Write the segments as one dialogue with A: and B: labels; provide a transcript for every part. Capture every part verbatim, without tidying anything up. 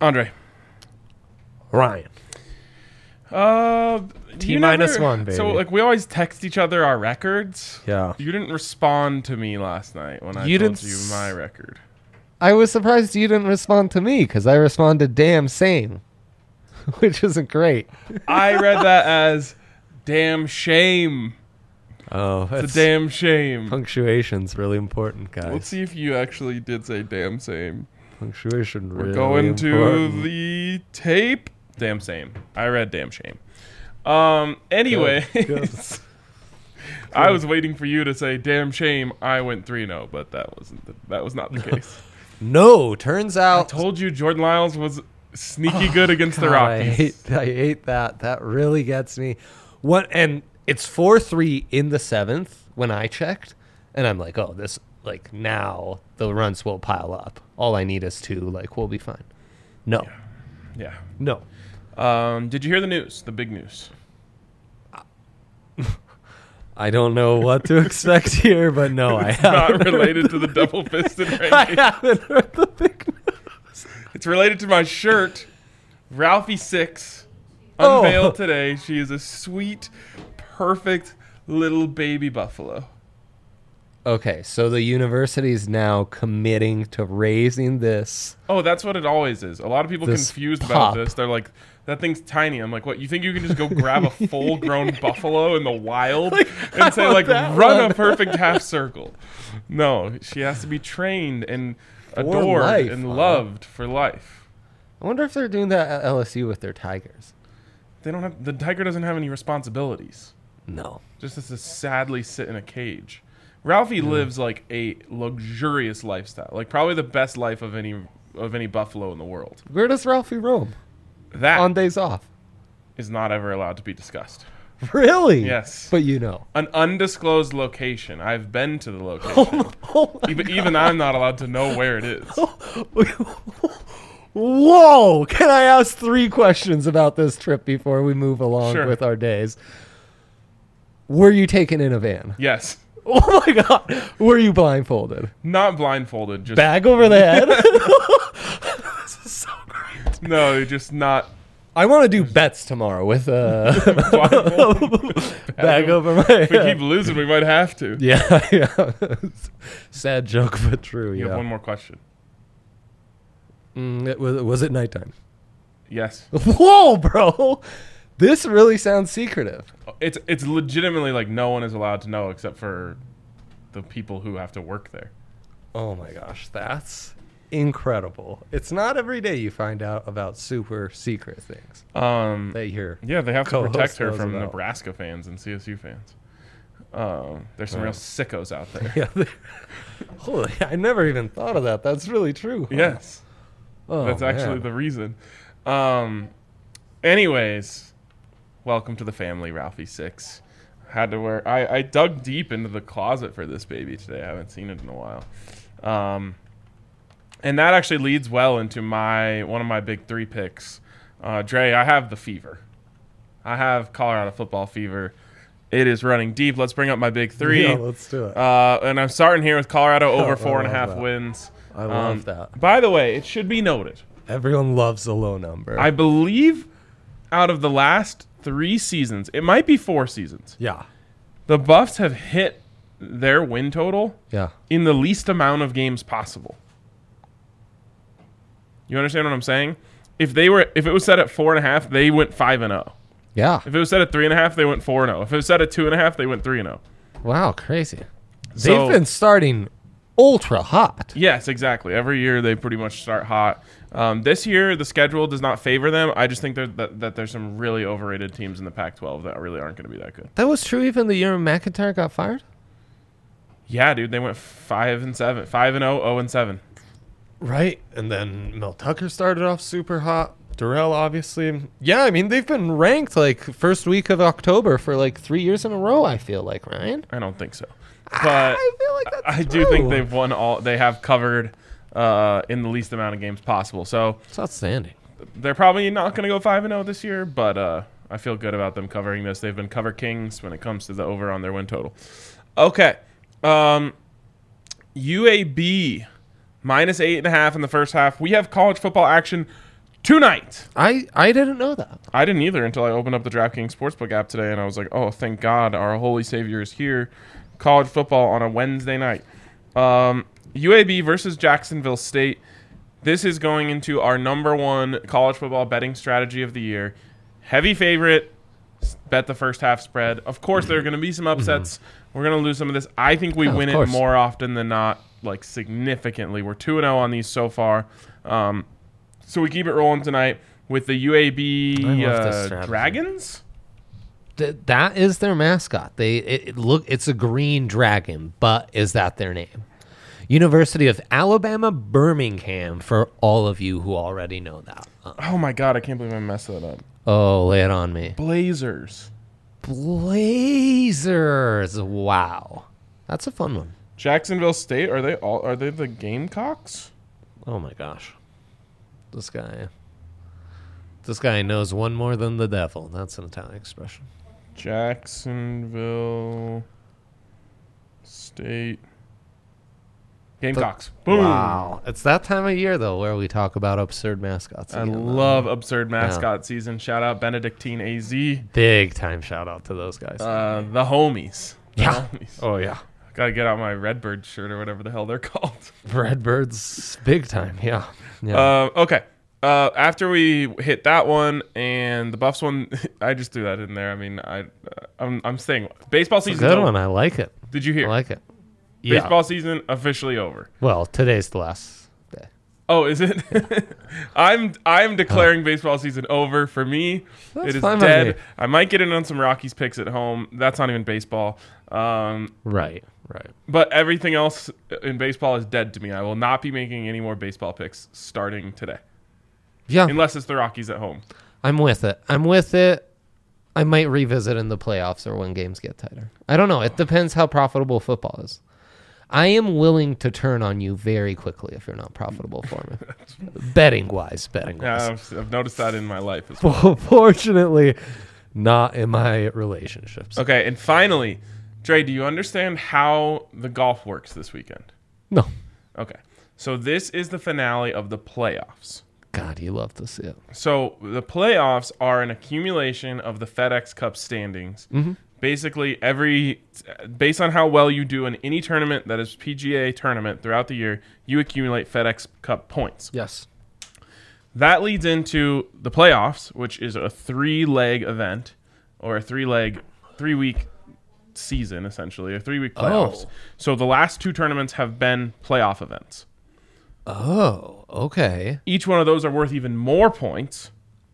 A: Andre.
B: Ryan.
A: Uh,
B: T
A: you
B: minus
A: never-
B: one, baby.
A: So, like, we always text each other our records.
B: Yeah.
A: You didn't respond to me last night when I
B: You
A: told
B: didn't
A: you
B: s-
A: my record.
B: I was surprised you didn't respond to me because I responded damn same, which isn't great.
A: I read that as damn shame.
B: Oh,
A: It's
B: that's
A: a damn shame.
B: punctuation's really important, guys.
A: Let's see if you actually did say damn same.
B: Punctuation
A: We're
B: really
A: going to
B: important.
A: the tape. Damn same. I read damn shame. Um. Anyways,
B: good.
A: I was waiting for you to say damn shame. I went three and zero, but that wasn't. The, that was not the case.
B: No, turns
A: I
B: out
A: told you Jordan Lyles was sneaky good against the
B: God, I
A: Rockies.
B: hate, I hate that. That really gets me. What and it's four three in the seventh when I checked, and I'm like, oh, this like now the runs will pile up. All I need is two. Like we'll be fine. No,
A: Yeah.
B: no.
A: Um. Did you hear the news? The big news.
B: I don't know what to expect here, but no, I
A: It's
B: haven't.
A: not related to the double fisted
B: I
A: ranking.
B: haven't heard the big news.
A: It's related to my shirt. Ralphie Six
B: Oh.
A: unveiled today. She is a sweet, perfect little baby buffalo.
B: Okay, so the university is now committing to raising this.
A: Oh, that's what it always is. A lot of people
B: This
A: confused
B: pup.
A: about this. They're like, that thing's tiny. I'm like, what? You think you can just go grab a full-grown buffalo in the wild and say,
B: want
A: like,
B: that
A: run
B: one.
A: a perfect half circle? No, she has to be trained and
B: For
A: adored
B: life,
A: and
B: huh?
A: loved for life.
B: I wonder if they're doing that at L S U with their tigers.
A: They don't have the tiger doesn't have any responsibilities.
B: No.
A: Just has to sadly sit in a cage. Ralphie lives like a luxurious lifestyle, like probably the best life of any of any buffalo in the world.
B: Where does Ralphie roam
A: That
B: on days off?
A: is not ever allowed to be discussed.
B: Really?
A: Yes.
B: But you know.
A: An undisclosed location. I've been to the location.
B: Oh my
A: even even I'm not allowed to know where it is.
B: Whoa! Can I ask three questions about this trip before we move along
A: Sure.
B: with our days? Were you taken in a van?
A: Yes.
B: Oh my god! Were you blindfolded?
A: Not blindfolded. Just
B: Bag over the head? This is so great.
A: no, just not
B: I want to do bets tomorrow with a
A: blindfolded.
B: bag over my
A: If we keep
B: head.
A: losing, we might have to.
B: Yeah, yeah. Sad joke, but true.
A: You
B: yeah.
A: have one more question.
B: Mm, it was, was it nighttime?
A: Yes.
B: Whoa, bro! This really sounds secretive.
A: It's it's legitimately like no one is allowed to know except for the people who have to work there.
B: Oh my gosh, that's incredible. It's not every day you find out about super secret things
A: Um,
B: that you're.
A: yeah, they have to
B: co-host
A: protect her
B: knows
A: from
B: about.
A: Nebraska fans and C S U fans. Um, there's some
B: Oh.
A: real sickos out there.
B: Yeah, they- holy, I never even thought of that. That's really true. huh?
A: Yes,
B: Oh,
A: that's actually
B: man.
A: the reason. Um, anyways, welcome to the family, Ralphie Six. Had to wear. I, I dug deep into the closet for this baby today. I haven't seen it in a while. Um, and that actually leads well into my one of my big three picks. Uh, Dre, I have the fever. I have Colorado football fever. It is running deep. Let's bring up my big three.
B: Yeah, let's do it.
A: Uh, and I'm starting here with Colorado
B: Oh,
A: over
B: I
A: four and a
B: love
A: half
B: that.
A: wins.
B: I love
A: Um,
B: that.
A: By the way, it should be noted.
B: Everyone loves a low number.
A: I believe out of the last three seasons, it might be four seasons,
B: yeah,
A: the Buffs have hit their win total
B: yeah.
A: in the least amount of games possible. You understand what I'm saying? If they were, if it was set at four and a half, they went five and zero.
B: Yeah.
A: If it was set at three and a half, they went four and zero. If it was set at two and a half, they went three and zero.
B: Wow, crazy.
A: So-
B: They've been starting ultra hot.
A: Yes, exactly. Every year they pretty much start hot. Um, this year the schedule does not favor them. I just think there, that that there's some really overrated teams in the Pac twelve that really aren't going to be that good.
B: That was true even the year McIntyre got fired?
A: Yeah, dude, they went five and seven, five and zero, zero and seven.
B: Right. And then Mel Tucker started off super hot. Durrell, obviously. Yeah, I mean, they've been ranked like first week of October for like three years in a row, I feel like, Ryan.
A: I don't think so,
B: I
A: but
B: feel like that's
A: I do
B: true.
A: think they've won all. They have covered uh, in the least amount of games possible. So
B: It's outstanding.
A: they're probably not going to go five and zero this year, but uh, I feel good about them covering this. They've been cover kings when it comes to the over on their win total. Okay, um, U A B minus eight and a half in the first half. We have college football action tonight.
B: I, I didn't know that.
A: I didn't either until I opened up the DraftKings Sportsbook app today, and I was like, oh, thank God our Holy Savior is here. College football on a Wednesday night. Um, U A B versus Jacksonville State. This is going into our number one college football betting strategy of the year. Heavy favorite. Bet the first half spread. Of course, there are going to be some upsets. Mm-hmm. We're going to lose some of this. I think we yeah, win it more often than not, like significantly. We're two and oh on these so far. Um, so we keep it rolling tonight with the U A B uh, Dragons.
B: Th- that is their mascot. They it, it look it's a green dragon, but is that their name? University of Alabama, Birmingham, for all of you who already know that. Uh,
A: oh my God, I can't believe I messed that up.
B: Oh, lay it on me.
A: Blazers.
B: Blazers. Wow. That's a fun one.
A: Jacksonville State, are they all are they the Gamecocks?
B: Oh my gosh. This guy This guy knows one more than the devil. That's an Italian expression.
A: Jacksonville State Gamecocks. The, Boom.
B: Wow. It's that time of year, though, where we talk about absurd mascots.
A: I again, love though. absurd mascot yeah. season. Shout out Benedictine A Z.
B: Big time shout out to those guys.
A: Uh, the homies. The
B: yeah.
A: Homies.
B: Oh, yeah.
A: Got to get out my Redbird shirt or whatever the hell they're called.
B: Redbirds, big time. Yeah. yeah.
A: Uh, okay. Uh, after we hit that one and the Buffs one, I just threw that in there. I mean, I, uh, I'm, I'm saying baseball season.
B: Good one. I like it.
A: Did you hear?
B: I like it.
A: Baseball
B: yeah.
A: season officially over.
B: Well, today's the last day.
A: Oh, is it? I'm I'm declaring huh. baseball season over. For me,
B: That's
A: it is
B: fine
A: dead.
B: Me.
A: I might get in on some Rockies picks at home. That's not even baseball. Um,
B: right, right.
A: But everything else in baseball is dead to me. I will not be making any more baseball picks starting today.
B: Yeah.
A: Unless it's the Rockies at home.
B: I'm with it. I'm with it. I might revisit in the playoffs or when games get tighter. I don't know. It depends how profitable football is. I am willing to turn on you very quickly if you're not profitable for me. betting wise, betting wise.
A: Yeah, I've, I've noticed that in my life as well.
B: Fortunately, not in my relationships.
A: Okay, and finally, Dre, do you understand how the golf works this weekend?
B: No.
A: Okay, so this is the finale of the playoffs.
B: God, you love to see it.
A: So the playoffs are an accumulation of the FedEx Cup standings.
B: Mm-hmm.
A: Basically, every based on how well you do in any tournament that is P G A tournament throughout the year, you accumulate FedEx Cup points.
B: Yes.
A: That leads into the playoffs, which is a three-leg event or a three-leg, three-week season, essentially, or three-week playoffs.
B: Oh.
A: So the last two tournaments have been playoff events.
B: Oh, okay.
A: Each one of those are worth even more points.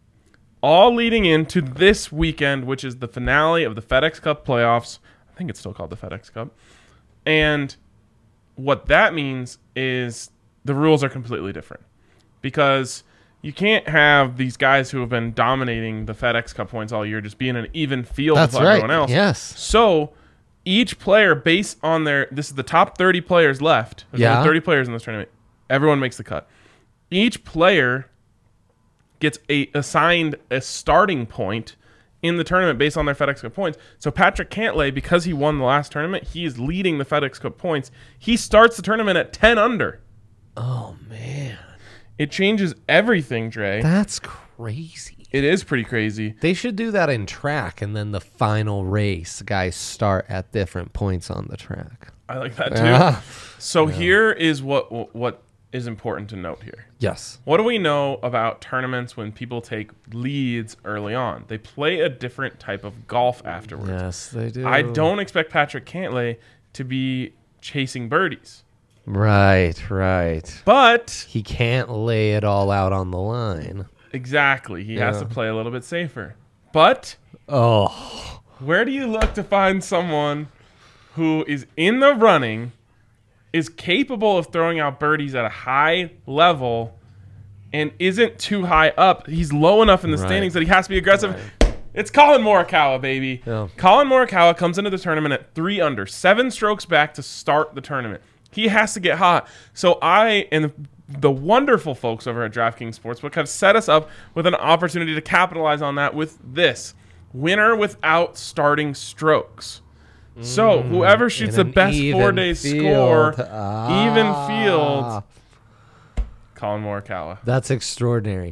A: All leading into this weekend, which is the finale of the FedEx Cup playoffs. I think it's still called the FedEx Cup. And what that means is the rules are completely different. Because you can't have these guys who have been dominating the FedEx Cup points all year just be in an even field
B: That's
A: with
B: right.
A: everyone else.
B: Yes.
A: So each player, based on their... This is the top thirty players left. There's
B: yeah.
A: only thirty players in this tournament. Everyone makes the cut. Each player gets a assigned a starting point in the tournament based on their FedEx Cup points. So Patrick Cantlay, because he won the last tournament, he is leading the FedEx Cup points. He starts the tournament at ten under.
B: Oh, man.
A: It changes everything, Dre.
B: That's crazy.
A: It is pretty crazy.
B: They should do that in track, and then the final race, guys start at different points on the track.
A: I like that, too.
B: Yeah.
A: So
B: yeah.
A: here is what what is important to note here.
B: Yes.
A: What do we know about tournaments when people take leads early on? They play a different type of golf afterwards.
B: Yes, they do.
A: I don't expect Patrick Cantlay to be chasing birdies.
B: Right, right.
A: But
B: he can't lay it all out on the line.
A: Exactly. He
B: yeah.
A: has to play a little bit safer. But
B: oh,
A: where do you look to find someone who is in the running, is capable of throwing out birdies at a high level, and isn't too high up? He's low enough in the
B: right.
A: standings that he has to be aggressive.
B: Right.
A: It's Colin Morikawa, baby.
B: Yeah.
A: Colin Morikawa comes into the tournament at three under, seven strokes back to start the tournament. He has to get hot. So I and the wonderful folks over at DraftKings Sportsbook have set us up with an opportunity to capitalize on that with this winner without starting strokes. Mm, so whoever shoots the best four-day score, ah. even field, Colin Morikawa.
B: That's extraordinary.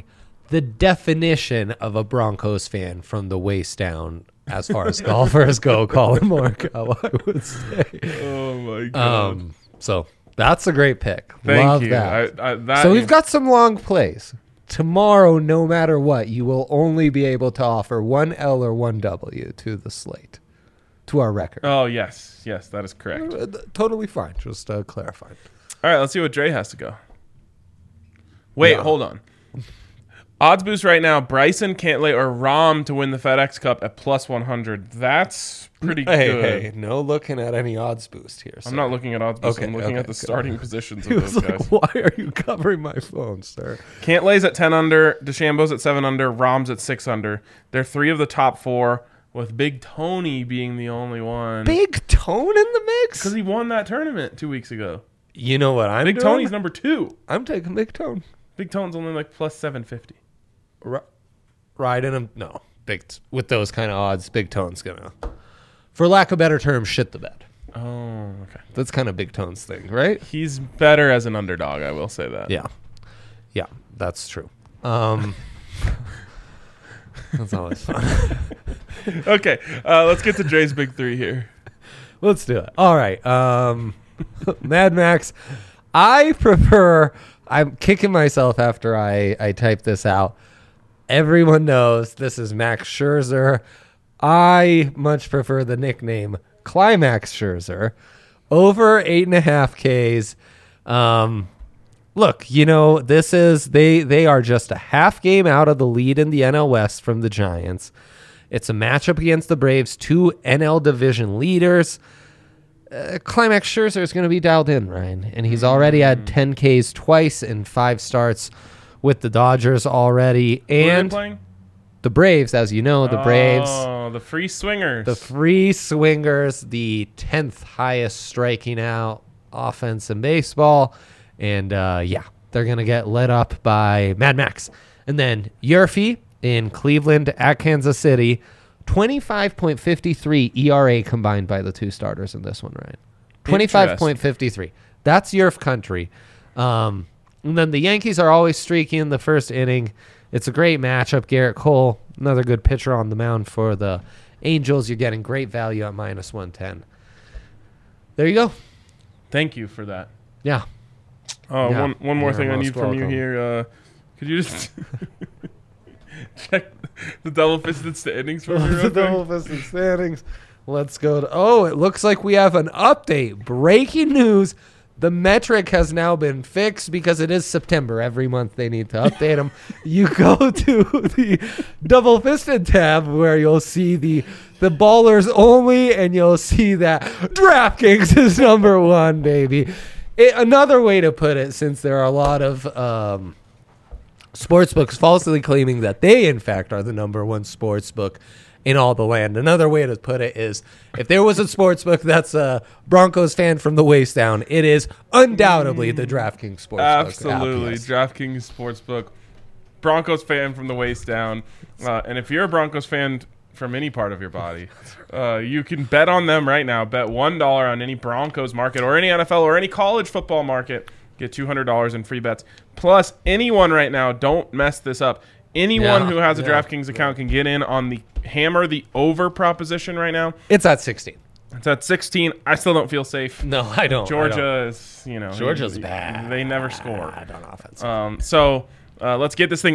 B: the definition of a Broncos fan from the waist down as far as golfers go, Colin Morikawa, I would say.
A: Oh, my God.
B: Um, so that's a great pick.
A: Thank
B: Love
A: you.
B: that.
A: I, I, that.
B: So we've got some long plays. Tomorrow, no matter what, you will only be able to offer one L or one W to the slate, to our record.
A: Oh, yes. Yes, that is correct.
B: Uh, Totally fine. Just uh, clarifying.
A: All right, let's see what Dre has to go. Wait,
B: No.
A: hold on. Odds boost right now, Bryson, Cantlay, or Rahm to win the FedEx Cup at plus one hundred. That's pretty
B: Hey,
A: good.
B: hey, no looking at any odds boost here.
A: I'm not looking at odds boost.
B: Okay,
A: I'm looking
B: okay,
A: at the
B: good.
A: starting positions
B: He
A: of
B: was
A: those
B: like,
A: guys.
B: why are you covering my phone, sir?
A: Cantlay's at ten under, DeChambeau's at seven under, Rahm's at six under. They're three of the top four, with Big Tony being the only one.
B: Big Tone in the mix?
A: Because he won that tournament two weeks ago.
B: You know what I'm
A: Big
B: doing?
A: Tony's number two.
B: I'm taking Big Tone.
A: Big Tone's only like plus seven fifty.
B: R- riding him? No. Big t- with those kind of odds, Big Tone's going to, for lack of better term, shit the bed.
A: Oh, okay.
B: That's kind of Big Tone's thing, right?
A: He's better as an underdog, I will say that.
B: Yeah. Yeah, that's true. Um, that's always fun.
A: Okay, uh, let's get to Dre's big three here.
B: Let's do it. All right. Um, Mad Max. I prefer. I'm kicking myself after I, I type this out. Everyone knows this is Max Scherzer. I much prefer the nickname Climax Scherzer. Over eight and a half Ks. Um, look, you know, this is they they are just a half game out of the lead in the N L West from the Giants. It's a matchup against the Braves, two N L division leaders. Uh, Climax Scherzer is going to be dialed in, Ryan, and he's already had ten Ks twice in five starts with the Dodgers already.
A: Who are they
B: And
A: playing?
B: the Braves, as you know, the Braves,
A: Oh, the free swingers.
B: the free swingers, the tenth highest striking out offense in baseball. And uh, yeah, they're going to get lit up by Mad Max. And then Yurfie in Cleveland at Kansas City. twenty-five point five three E R A combined by the two starters in this one, Ryan. twenty-five point five three. That's Yerf country. Um, and then the Yankees are always streaky in the first inning. It's a great matchup. Garrett Cole, another good pitcher on the mound for the Angels. You're getting great value at minus one ten. There you go.
A: Thank you for that.
B: Yeah.
A: Oh,
B: Yeah.
A: one one more
B: You're
A: thing I
B: most
A: need from you
B: welcome.
A: here. Uh, could you just check the double fisted standings for me real
B: The
A: quick?
B: double fisted standings. Let's go to. Oh, it looks like we have an update. Breaking news. The metric has now been fixed because it is September. Every month they need to update them. You go to the double fisted tab where you'll see the the ballers only, and you'll see that DraftKings is number one, baby. It, another way to put it, since there are a lot of um, sportsbooks falsely claiming that they, in fact, are the number one sportsbook in all the land. Another way to put it is, if there was a sportsbook that's a Broncos fan from the waist down, it is undoubtedly the DraftKings sportsbook.
A: Absolutely.
B: app, yes.
A: DraftKings Sportsbook. Broncos fan from the waist down. Uh, and if you're a Broncos fan from any part of your body, uh, you can bet on them right now. Bet one dollar on any Broncos market or any N F L or any college football market. Get two hundred dollars in free bets. Plus, anyone right now, don't mess this up. Anyone
B: Yeah,
A: who has a
B: yeah,
A: DraftKings account can get in on the hammer the over proposition right now.
B: It's at sixteen.
A: It's at sixteen. I still don't feel safe.
B: No, I don't.
A: Georgia
B: I don't.
A: is, you know.
B: Georgia's
A: they-
B: bad.
A: They never score.
B: Bad on offense.
A: Um, so uh, let's get this thing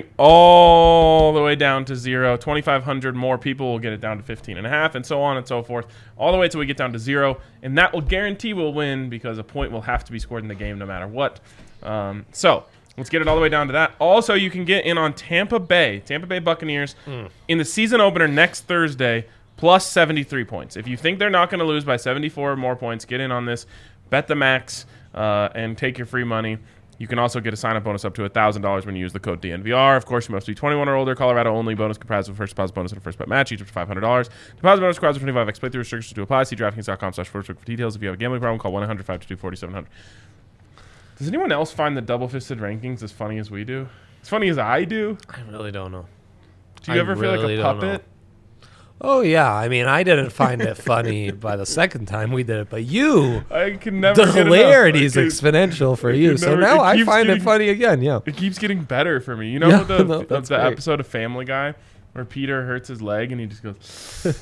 A: all the way down to zero. twenty-five hundred more people will get it down to fifteen and a half, and so on and so forth, all the way till we get down to zero. And that will guarantee we'll win because a point will have to be scored in the game no matter what. Um, so let's get it all the way down to that. Also, you can get in on Tampa Bay, Tampa Bay Buccaneers
B: Mm.
A: in the season opener next Thursday, plus seventy-three points. If you think they're not going to lose by seventy-four or more points, get in on this. Bet the max uh, and take your free money. You can also get a sign-up bonus up to one thousand dollars when you use the code D N V R. Of course, you must be twenty-one or older. Colorado only. Bonus comprised of a first deposit bonus and a first bet match, each up to five hundred dollars. Deposit bonus requires a twenty-five x playthrough. Restrictions to apply. See DraftKings.com slash sportsbook for details. If you have a gambling problem, call one eight hundred five two two four seven zero zero. Does anyone else find the double-fisted rankings as funny as we do? As funny as I do?
B: I really don't know.
A: Do you
B: I
A: ever feel
B: really
A: like a
B: don't
A: puppet?
B: Oh yeah, I mean, I didn't find it funny by the second time we did it, but you,
A: I can never.
B: the
A: get
B: hilarity is
A: enough. I can-
B: exponential for
A: I
B: you.
A: can
B: So
A: never-
B: now
A: it
B: I
A: keeps
B: find
A: getting-
B: it funny again. Yeah.
A: It keeps getting better for me. You know
B: Yeah,
A: the
B: no,
A: the,
B: that's
A: the
B: great.
A: episode of Family Guy where Peter hurts his leg and he just goes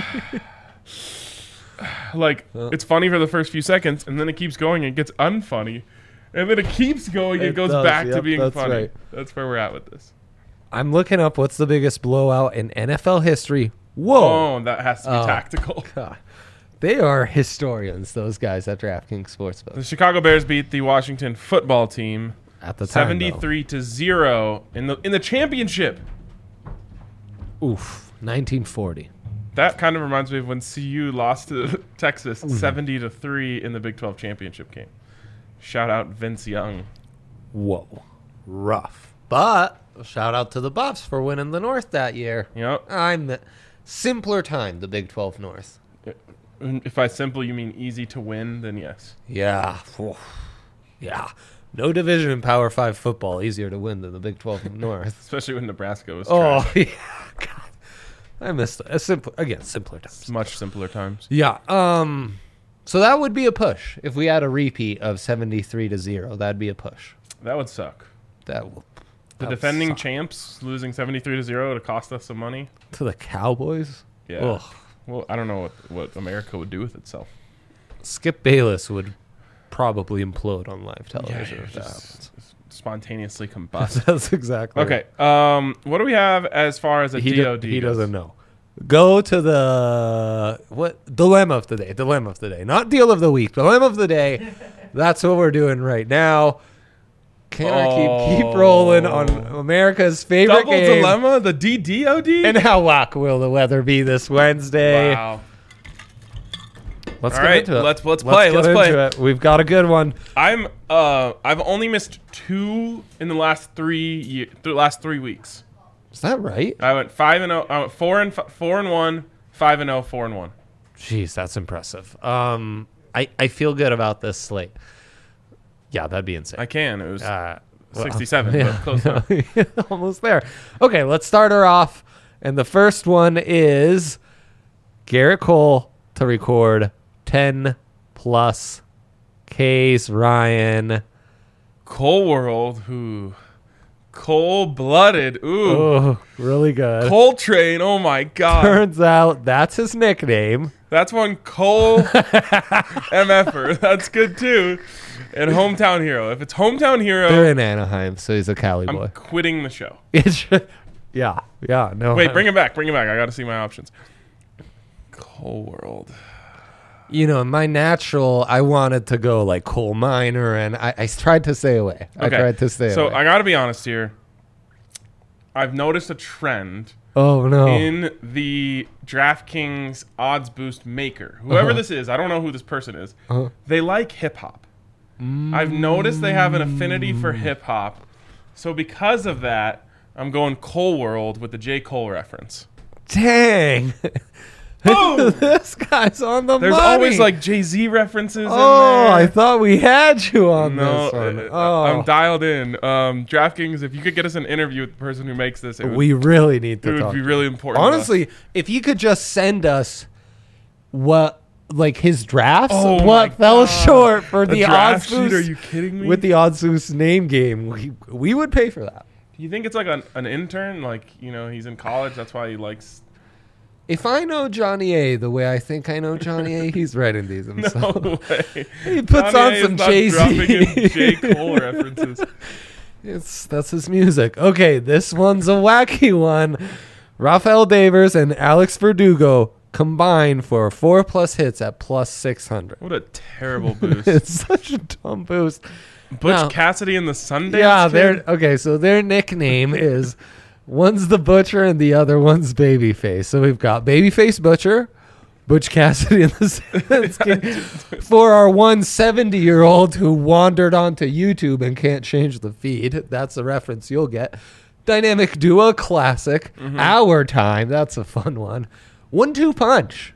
A: like
B: Well.
A: it's funny for the first few seconds and then it keeps going and it gets unfunny and then it keeps going and
B: It
A: goes
B: does,
A: back to
B: yep,
A: being
B: that's
A: funny.
B: right.
A: That's where we're at with this.
B: I'm looking up what's the biggest blowout in N F L history. Whoa.
A: Oh, that has to be
B: Oh.
A: tactical.
B: God. They are historians, those guys at DraftKings Sportsbook.
A: The Chicago Bears beat the Washington football team
B: At the time, though.
A: seventy-three to zero in the in the championship.
B: Oof. nineteen forty.
A: That kind of reminds me of when C U lost to Texas
B: Mm-hmm.
A: seventy to three in the Big twelve championship game. Shout out Vince Young.
B: Whoa. Rough. But shout out to the Buffs for winning the North that year.
A: Yep.
B: I'm the simpler time, the Big twelve North.
A: If by simple you mean easy to win, then yes.
B: Yeah. Oof. Yeah. No division in Power five football easier to win than the Big twelve North.
A: Especially when Nebraska was
B: Oh,
A: trash.
B: yeah. God. I missed it. A simple, again, simpler times.
A: It's much simpler times.
B: Yeah. Um. So that would be a push if we had a repeat of seventy-three to zero. That'd be a push.
A: That would suck.
B: That will.
A: The
B: that would
A: defending
B: suck.
A: champs losing seventy-three to zero to cost us some money.
B: To the Cowboys.
A: Yeah.
B: Ugh.
A: Well, I don't know what, what America would do with itself.
B: Skip Bayless would probably implode on live television
A: Yeah,
B: if that
A: just
B: happens.
A: spontaneously combust.
B: That's exactly
A: Okay. Um, what do we have as far as a
B: He,
A: D
B: do-
A: O D?
B: he
A: goes?
B: doesn't know. Go to the what dilemma of the day. Dilemma of the day, not deal of the week. Dilemma of the day. That's what we're doing right now. Can I keep keep rolling on America's favorite
A: Double
B: game?
A: dilemma, the D D O D.
B: And how whack will the weather be this Wednesday?
A: Wow.
B: Let's
A: All
B: get
A: right,
B: into it.
A: let's- let's play,
B: get
A: let's
B: into
A: play.
B: it. We've got a good one.
A: I'm uh I've only missed two in the last three ye- th- last three weeks.
B: Is that right?
A: I went five and oh, I went four and f- four and one, five and oh, four and one.
B: Jeez, that's impressive. Um, I I feel good about this slate. Yeah, that'd be insane.
A: I can. It was
B: Uh, well,
A: sixty-seven,
B: yeah,
A: but close enough.
B: almost there. Okay, let's start her off. And the first one is Garrett Cole to record ten plus K's Ryan.
A: Cole World, who cold blooded. Ooh,
B: Oh, really good.
A: Cole Train. Oh my God,
B: Turns out that's his nickname.
A: that's one Cole MFer. That's good too. And hometown hero. If it's hometown
B: They're
A: hero,
B: in Anaheim, so he's a Cali
A: I'm
B: boy.
A: quitting the show.
B: It's yeah, yeah. No,
A: Wait, bring it back. Bring it back. I got to see my options. Cole World.
B: You know, my natural, I wanted to go like coal miner, and I, I tried to stay away. I
A: Okay.
B: tried to stay
A: So
B: away.
A: I got to be honest here. I've noticed a trend
B: oh no!
A: in the DraftKings odds boost maker. Whoever
B: Uh-huh.
A: this is, I don't know who this person is.
B: Uh-huh.
A: They like hip hop. I've noticed they have an affinity for hip hop. So because of that, I'm going Cole World with the J. Cole reference.
B: Dang!
A: Boom!
B: This guy's on the
A: There's
B: money.
A: always like Jay-Z references
B: Oh,
A: in there.
B: I thought we had you on
A: no,
B: this one.
A: uh,
B: Oh,
A: I'm dialed in. Um, DraftKings, if you could get us an interview with the person who makes this, it would,
B: we really need
A: it
B: to
A: would
B: talk.
A: be really important. to us.
B: Honestly, if you could just send us what, like his drafts,
A: Oh my
B: what fell
A: God.
B: short for
A: A
B: the
A: draft
B: odds
A: sheet?
B: boost
A: Are you kidding me?
B: with the odds boost name game, we, we would pay for that.
A: Do you think it's like an, an intern? Like, you know, he's in college. That's why he likes.
B: If I know Johnny A the way I think I know Johnny A, he's writing these
A: No
B: himself.
A: way.
B: He puts
A: Johnny
B: on
A: A is
B: some
A: not
B: Jay-Z.
A: dropping in J. Cole references.
B: It's that's his music. Okay, this one's a wacky one. Rafael Devers and Alex Verdugo combine for four plus hits at plus six hundred.
A: What a terrible boost.
B: It's such a dumb boost.
A: Butch
B: No.
A: Cassidy and the Sundance
B: Yeah,
A: Kid?
B: they're okay. So their nickname is one's the Butcher and the other one's Babyface. So we've got Babyface Butcher, Butch Cassidy and the Sundance Kid. For our one seventy-year-old who wandered onto YouTube and can't change the feed, that's a reference you'll get. Dynamic Duo Classic,
A: Mm-hmm.
B: Our Time. That's a fun one. One Two Punch.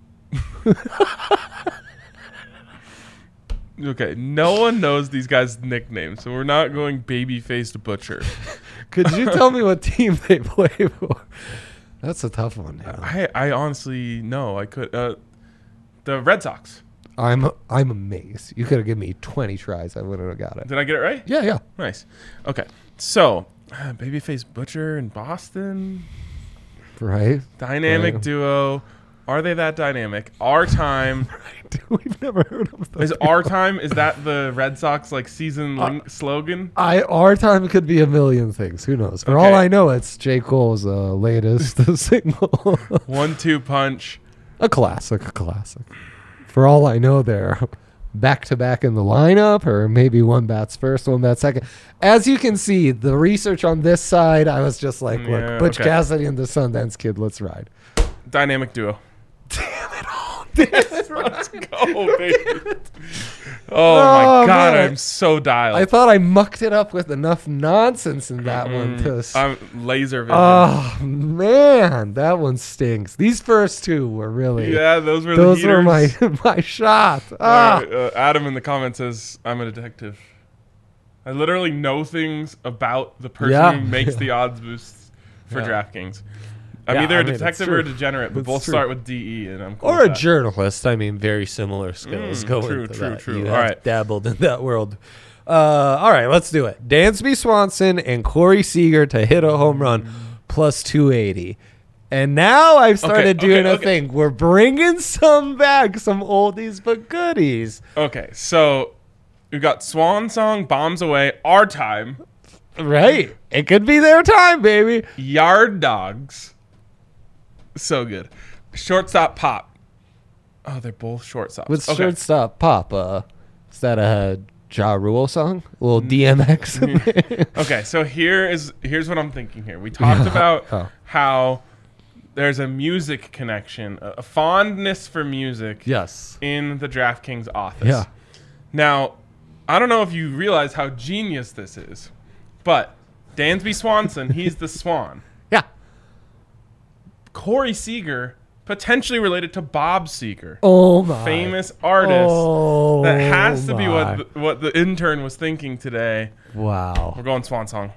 A: Okay, no one knows these guys' nicknames, so we're not going baby-faced butcher.
B: Could you tell me what team they play for? That's a tough one. Yeah.
A: I, I honestly no, I could. Uh, the Red Sox.
B: I'm I'm amazed. You could have given me twenty tries. I wouldn't have got it.
A: Did I get it right?
B: Yeah, yeah.
A: Nice. Okay. So, uh, Babyface Butcher in Boston.
B: Right.
A: Dynamic
B: Right.
A: duo. Are they that dynamic? Our time.
B: We've never heard of those
A: Is our time, is that the Red Sox like season link slogan?
B: I our time could be a million things. Who knows? For
A: Okay.
B: all I know, it's J. Cole's uh, latest single.
A: One two punch.
B: A classic, a classic. For all I know, they're back to back in the lineup, or maybe one bats first, one bats second. As you can see, the research on this side, I was just like, look,
A: Yeah,
B: Butch
A: okay.
B: Cassidy and the Sundance Kid, let's ride.
A: Dynamic duo.
B: Damn it all.
A: Let's go, baby. Oh, my
B: Oh,
A: God.
B: man.
A: I'm so dialed.
B: I thought I mucked it up with enough nonsense in that one to. s-
A: I'm laser vision.
B: Oh man, that one stinks. These first two were really.
A: yeah, those were
B: Those
A: the
B: were my
A: heaters.
B: my shot.
A: All
B: Ah.
A: right, uh, Adam in the comments says, I'm a detective. I literally know things about the person
B: Yeah.
A: who makes the odds boosts for
B: Yeah.
A: DraftKings. I'm
B: Yeah,
A: either
B: I
A: a
B: mean, it's
A: detective or a
B: true.
A: degenerate, but
B: It's
A: both
B: true.
A: start with D E, and I'm cool
B: Or
A: with
B: a
A: that.
B: journalist. I mean, very similar skills
A: Mm,
B: go
A: true,
B: into
A: true,
B: that.
A: true.
B: You
A: All
B: have
A: right.
B: dabbled in that world. Uh, all right, let's do it. Dansby Swanson and Corey Seager to hit a home run plus two eighty. And now I've started
A: Okay,
B: doing
A: okay,
B: a
A: okay.
B: thing. We're bringing some back, some oldies but goodies.
A: Okay, so we've got Swan Song, Bombs Away, Our Time,
B: Right? It could be their time, baby.
A: Yard Dogs. So good. Shortstop Pop. Oh, they're both shortstops.
B: What's
A: okay.
B: shortstop pop? Uh, is that a Ja Rule song? A little D M X?
A: Okay, so here is here's what I'm thinking here. We talked about
B: Oh.
A: how there's a music connection, a a fondness for music
B: Yes.
A: in the DraftKings office.
B: Yeah.
A: Now, I don't know if you realize how genius this is, but Dansby Swanson, he's the Swan.
B: Yeah.
A: Corey Seager, potentially related to Bob Seger,
B: Oh my.
A: famous artist.
B: Oh,
A: That has to be
B: my.
A: what the, what the intern was thinking today.
B: Wow.
A: We're going Swan Song.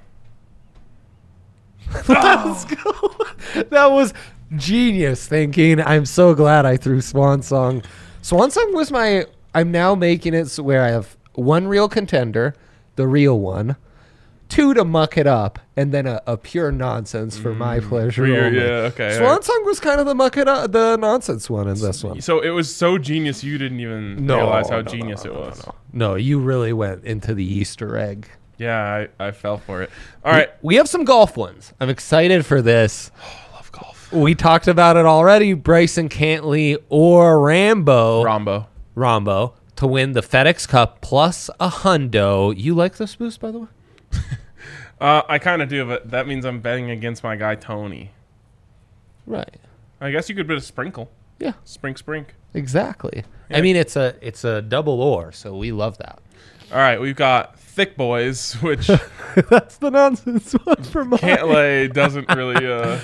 B: Let's go. That was genius thinking. I'm so glad I threw Swan Song. Swan Song was my. I'm now making it so where I have one real contender, the real one, two to muck it up, and then a, a pure nonsense for my pleasure.
A: For your-
B: only.
A: yeah, okay,
B: Swan
A: alright.
B: Song was kind of the muck it up, the nonsense one in this one.
A: So it was so genius you didn't even
B: No,
A: realize how
B: no, no,
A: genius
B: no,
A: it
B: no,
A: was.
B: no. No, you really went into the Easter egg.
A: Yeah, I, I fell for it. All right.
B: We have some golf ones. I'm excited for this.
A: I love golf.
B: We talked about it already. Bryson Cantley or Rambo,
A: Rombo.
B: Rombo to win the FedEx Cup plus a hundo. You like this boost, by the way?
A: Uh, I kind of do, but that means I'm betting against my guy Tony.
B: Right.
A: I guess you could bet a sprinkle.
B: Yeah,
A: Sprink, sprink.
B: exactly.
A: Yeah.
B: I mean, it's a it's a double or, so we love that.
A: All right, we've got Thick Boys, which
B: That's the nonsense one for mine.
A: can't lay doesn't really. Uh,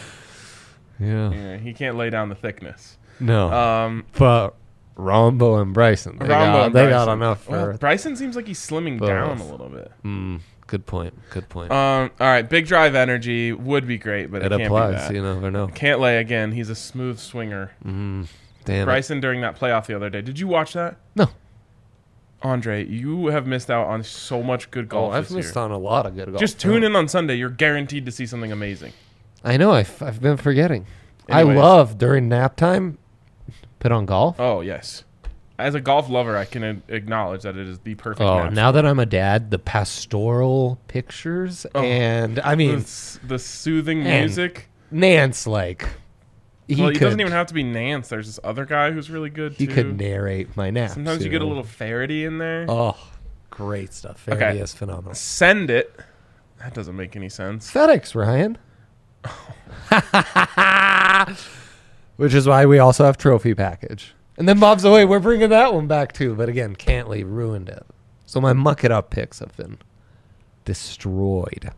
B: Yeah.
A: yeah, he can't lay down the thickness.
B: No.
A: Um,
B: but Rombo and Bryson, they,
A: Rombo
B: got,
A: and
B: they got
A: Bryson.
B: enough
A: Well,
B: for.
A: Bryson seems like he's slimming
B: both.
A: down a little bit.
B: Mm, good point. Good point.
A: Um, all right, Big Drive Energy would be great, but it,
B: it
A: can't
B: applies.
A: be that.
B: You never know.
A: Can't lay again. He's a smooth swinger.
B: Mm, damn it.
A: Bryson during that playoff the other day. Did you watch that?
B: No.
A: Andre, you have missed out on so much good golf
B: Oh, I've
A: this
B: missed
A: year.
B: on a lot of good golf.
A: Just tune in on Sunday. You're guaranteed to see something amazing.
B: I know. I've, I've been forgetting. I
A: Anyways.
B: love during nap time, put on golf.
A: Oh, yes. As a golf lover, I can a- acknowledge that it is the perfect
B: Oh,
A: match.
B: now that I'm a dad, the pastoral pictures
A: Oh.
B: and I
A: the,
B: mean,
A: s- the soothing
B: And
A: music.
B: Nance like he
A: Well, he
B: could
A: doesn't even have to be Nance. There's this other guy who's really good,
B: he
A: too.
B: could narrate my naps.
A: Sometimes you get a
B: know?
A: little Faraday in there.
B: Oh, great stuff.
A: Okay.
B: Faraday is phenomenal.
A: Send it. That doesn't make any sense.
B: FedEx, Ryan. Which is why we also have trophy package. And then Bob's away. We're bringing that one back too. But again, Cantley ruined it. So my muck it up picks have been destroyed.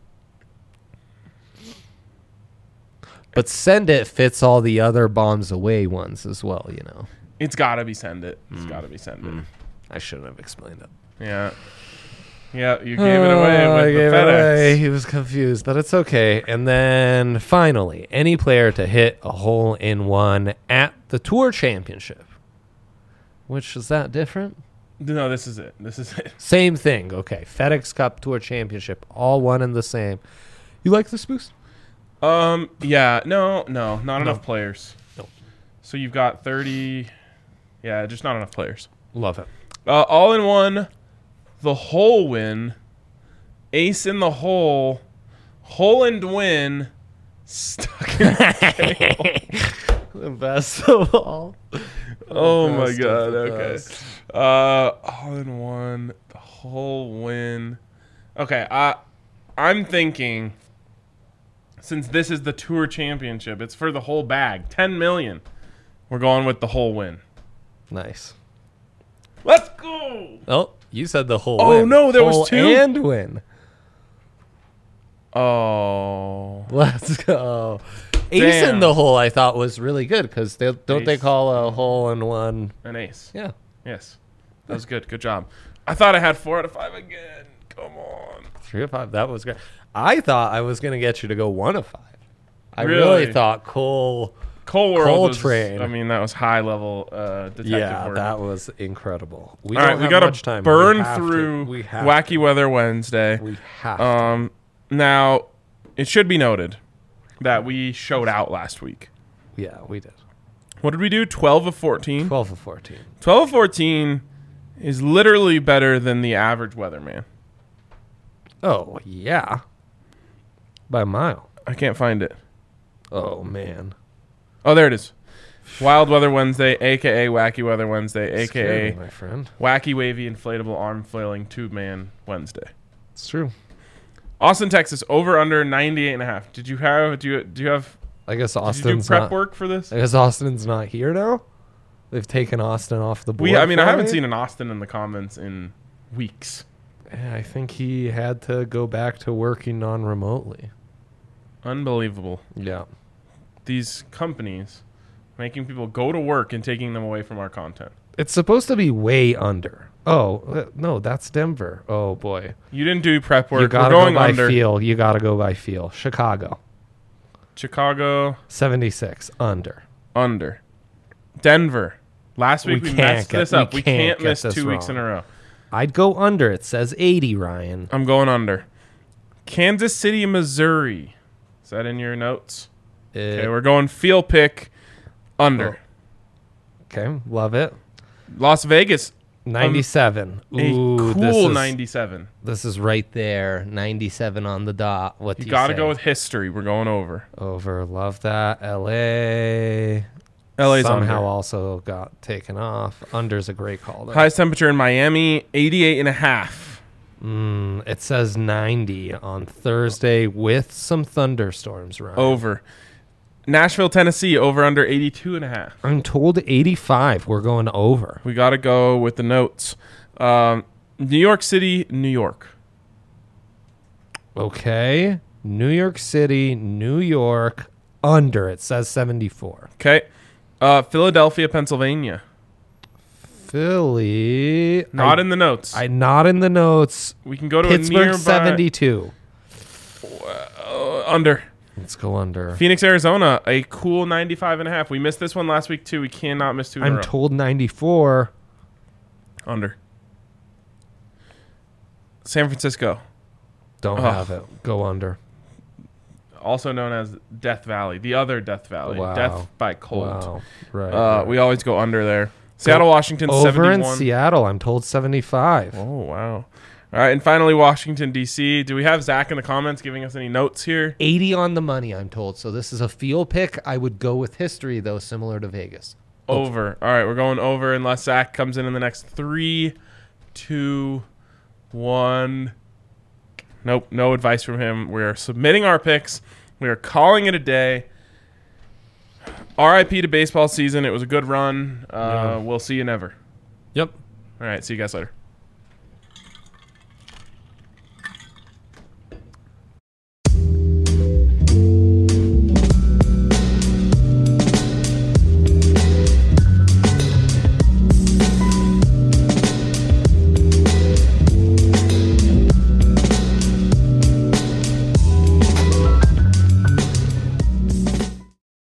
B: But Send It fits all the other Bombs Away ones as well, you know.
A: It's got to be Send It.
B: Hmm.
A: It's got to be Send It.
B: I shouldn't have explained it.
A: Yeah. Yeah, you gave it away
B: Oh,
A: with
B: I
A: the
B: gave it
A: FedEx.
B: away. He was confused, but it's okay. And then finally, any player to hit a hole in one at the Tour Championship. Which is that different?
A: No, this is it. This is it.
B: Same thing. Okay. FedEx Cup Tour Championship, all one and the same. You like this boost?
A: Um. Yeah. No. No. Not
B: No.
A: enough players.
B: No.
A: So you've got thirty. Yeah, just not enough players.
B: Love it.
A: Uh, all in one, the hole win, ace in the hole, hole and win, stuck in
B: The best of all.
A: Oh
B: The
A: my
B: best
A: god,
B: of the
A: okay.
B: best.
A: Uh all in one, the whole win. Okay, I I'm thinking since this is the Tour Championship, it's for the whole bag. ten million. We're going with the whole win.
B: Nice.
A: Let's go.
B: Oh, you said the whole
A: Oh,
B: win.
A: no, there was
B: Whole
A: two?
B: and win.
A: Oh.
B: Let's go. Ace
A: Damn.
B: in the hole I thought was really good because they don't they
A: Ace.
B: call a hole in one.
A: An ace.
B: Yeah.
A: Yes. That was good. Good job. I thought I had four out of five again. Come on.
B: Three of five. That was great. I thought I was going to get you to go one of five. I really,
A: Really?
B: thought Cole.
A: Cole World
B: Cole
A: was,
B: Train.
A: I mean, that was high level uh, detective
B: Yeah,
A: work.
B: that was incredible. We
A: All right,
B: don't
A: we
B: have
A: got
B: much
A: to
B: time.
A: burn
B: We have to.
A: through
B: We have
A: Wacky Weather Wednesday.
B: To. We have to.
A: Um, now, it should be noted that we showed out last week.
B: Yeah, we did.
A: What did we do? twelve of fourteen?
B: twelve of fourteen.
A: twelve of fourteen is literally better than the average weatherman.
B: Oh, yeah. By a mile.
A: I can't find it.
B: Oh, man.
A: Oh, there it is. Wild Weather Wednesday, a k a. Wacky Weather Wednesday, a
B: Scary,
A: k a.
B: my friend.
A: Wacky Wavy Inflatable Arm Flailing Tube Man Wednesday.
B: It's true.
A: Austin, Texas, over under ninety-eight and a half. Did you have do you do you have
B: I guess
A: did you do
B: Austin's
A: prep
B: not,
A: work for this?
B: I guess Austin's not here now. They've taken Austin off the board.
A: We I mean I
B: for
A: haven't
B: me.
A: seen an Austin in the comments in weeks.
B: Yeah, I think he had to go back to working non-remotely.
A: Unbelievable.
B: Yeah.
A: These companies making people go to work and taking them away from our content.
B: It's supposed to be way under. Oh, uh, no, that's Denver. Oh, boy.
A: You didn't do prep work.
B: You
A: We're
B: got to
A: going
B: go by
A: under.
B: feel. You got to go by feel. Chicago.
A: Chicago
B: seventy-six. Under.
A: under. Denver. Last week
B: We
A: we,
B: can't
A: messed
B: get-
A: this
B: we
A: up. We
B: can't
A: can't,
B: get
A: miss
B: this
A: two weeks in
B: wrong.
A: a row.
B: I'd go under. It says eighty, Ryan.
A: I'm going under. Kansas City, Missouri. Is that in your notes? Okay,
B: Uh,
A: we're going field pick under.
B: okay, love it.
A: Las Vegas,
B: ninety-seven.
A: a
B: Ooh, this
A: cool
B: is,
A: ninety-seven.
B: This is right there. ninety-seven on the dot. What do
A: You
B: you
A: got to
B: say?
A: go with history. We're going over.
B: Over. Love that. L A.
A: L A's
B: somehow
A: under.
B: also got taken off. Under's a great call. There.
A: Highest temperature in Miami, eighty-eight and a half.
B: Mm, it says ninety on Thursday with some thunderstorms, right?
A: Over. Nashville, Tennessee, over under eighty-two and a half.
B: I'm told eighty-five. We're going over.
A: We got to go with the notes. Um, New York City, New York.
B: Okay. New York City, New York, under. It says seventy-four.
A: Okay. Uh, Philadelphia, Pennsylvania.
B: Philly.
A: Not
B: I,
A: in the notes.
B: I not in the notes.
A: we can go to a
B: Pittsburgh,
A: nearby.
B: seventy-two.
A: Uh, under.
B: Let's go under.
A: Phoenix, Arizona, a cool ninety-five and a half. We missed this one last week too. We cannot miss two in a
B: I'm
A: row.
B: told ninety-four.
A: Under. San Francisco,
B: Don't
A: Oh.
B: have it. Go under.
A: also known as Death Valley, the other Death Valley,
B: Wow.
A: Death by Cold.
B: Wow. Right.
A: Uh,
B: right.
A: we always go under there. Seattle, Washington,
B: Over in
A: seventy-one.
B: Seattle, I'm told seventy-five.
A: Oh wow! All right, and finally Washington D C. Do we have Zach in the comments giving us any notes here?
B: eighty on the money, I'm told. So this is a field pick. I would go with history, though, similar to Vegas.
A: Over. All right, we're going over unless Zach comes in in the next three, two, one. Nope, no advice from him. We're submitting our picks. We are calling it a day. R I P to baseball season. It was a good run. Uh,
B: Yeah.
A: We'll see you never.
B: Yep.
A: All right, see you guys later.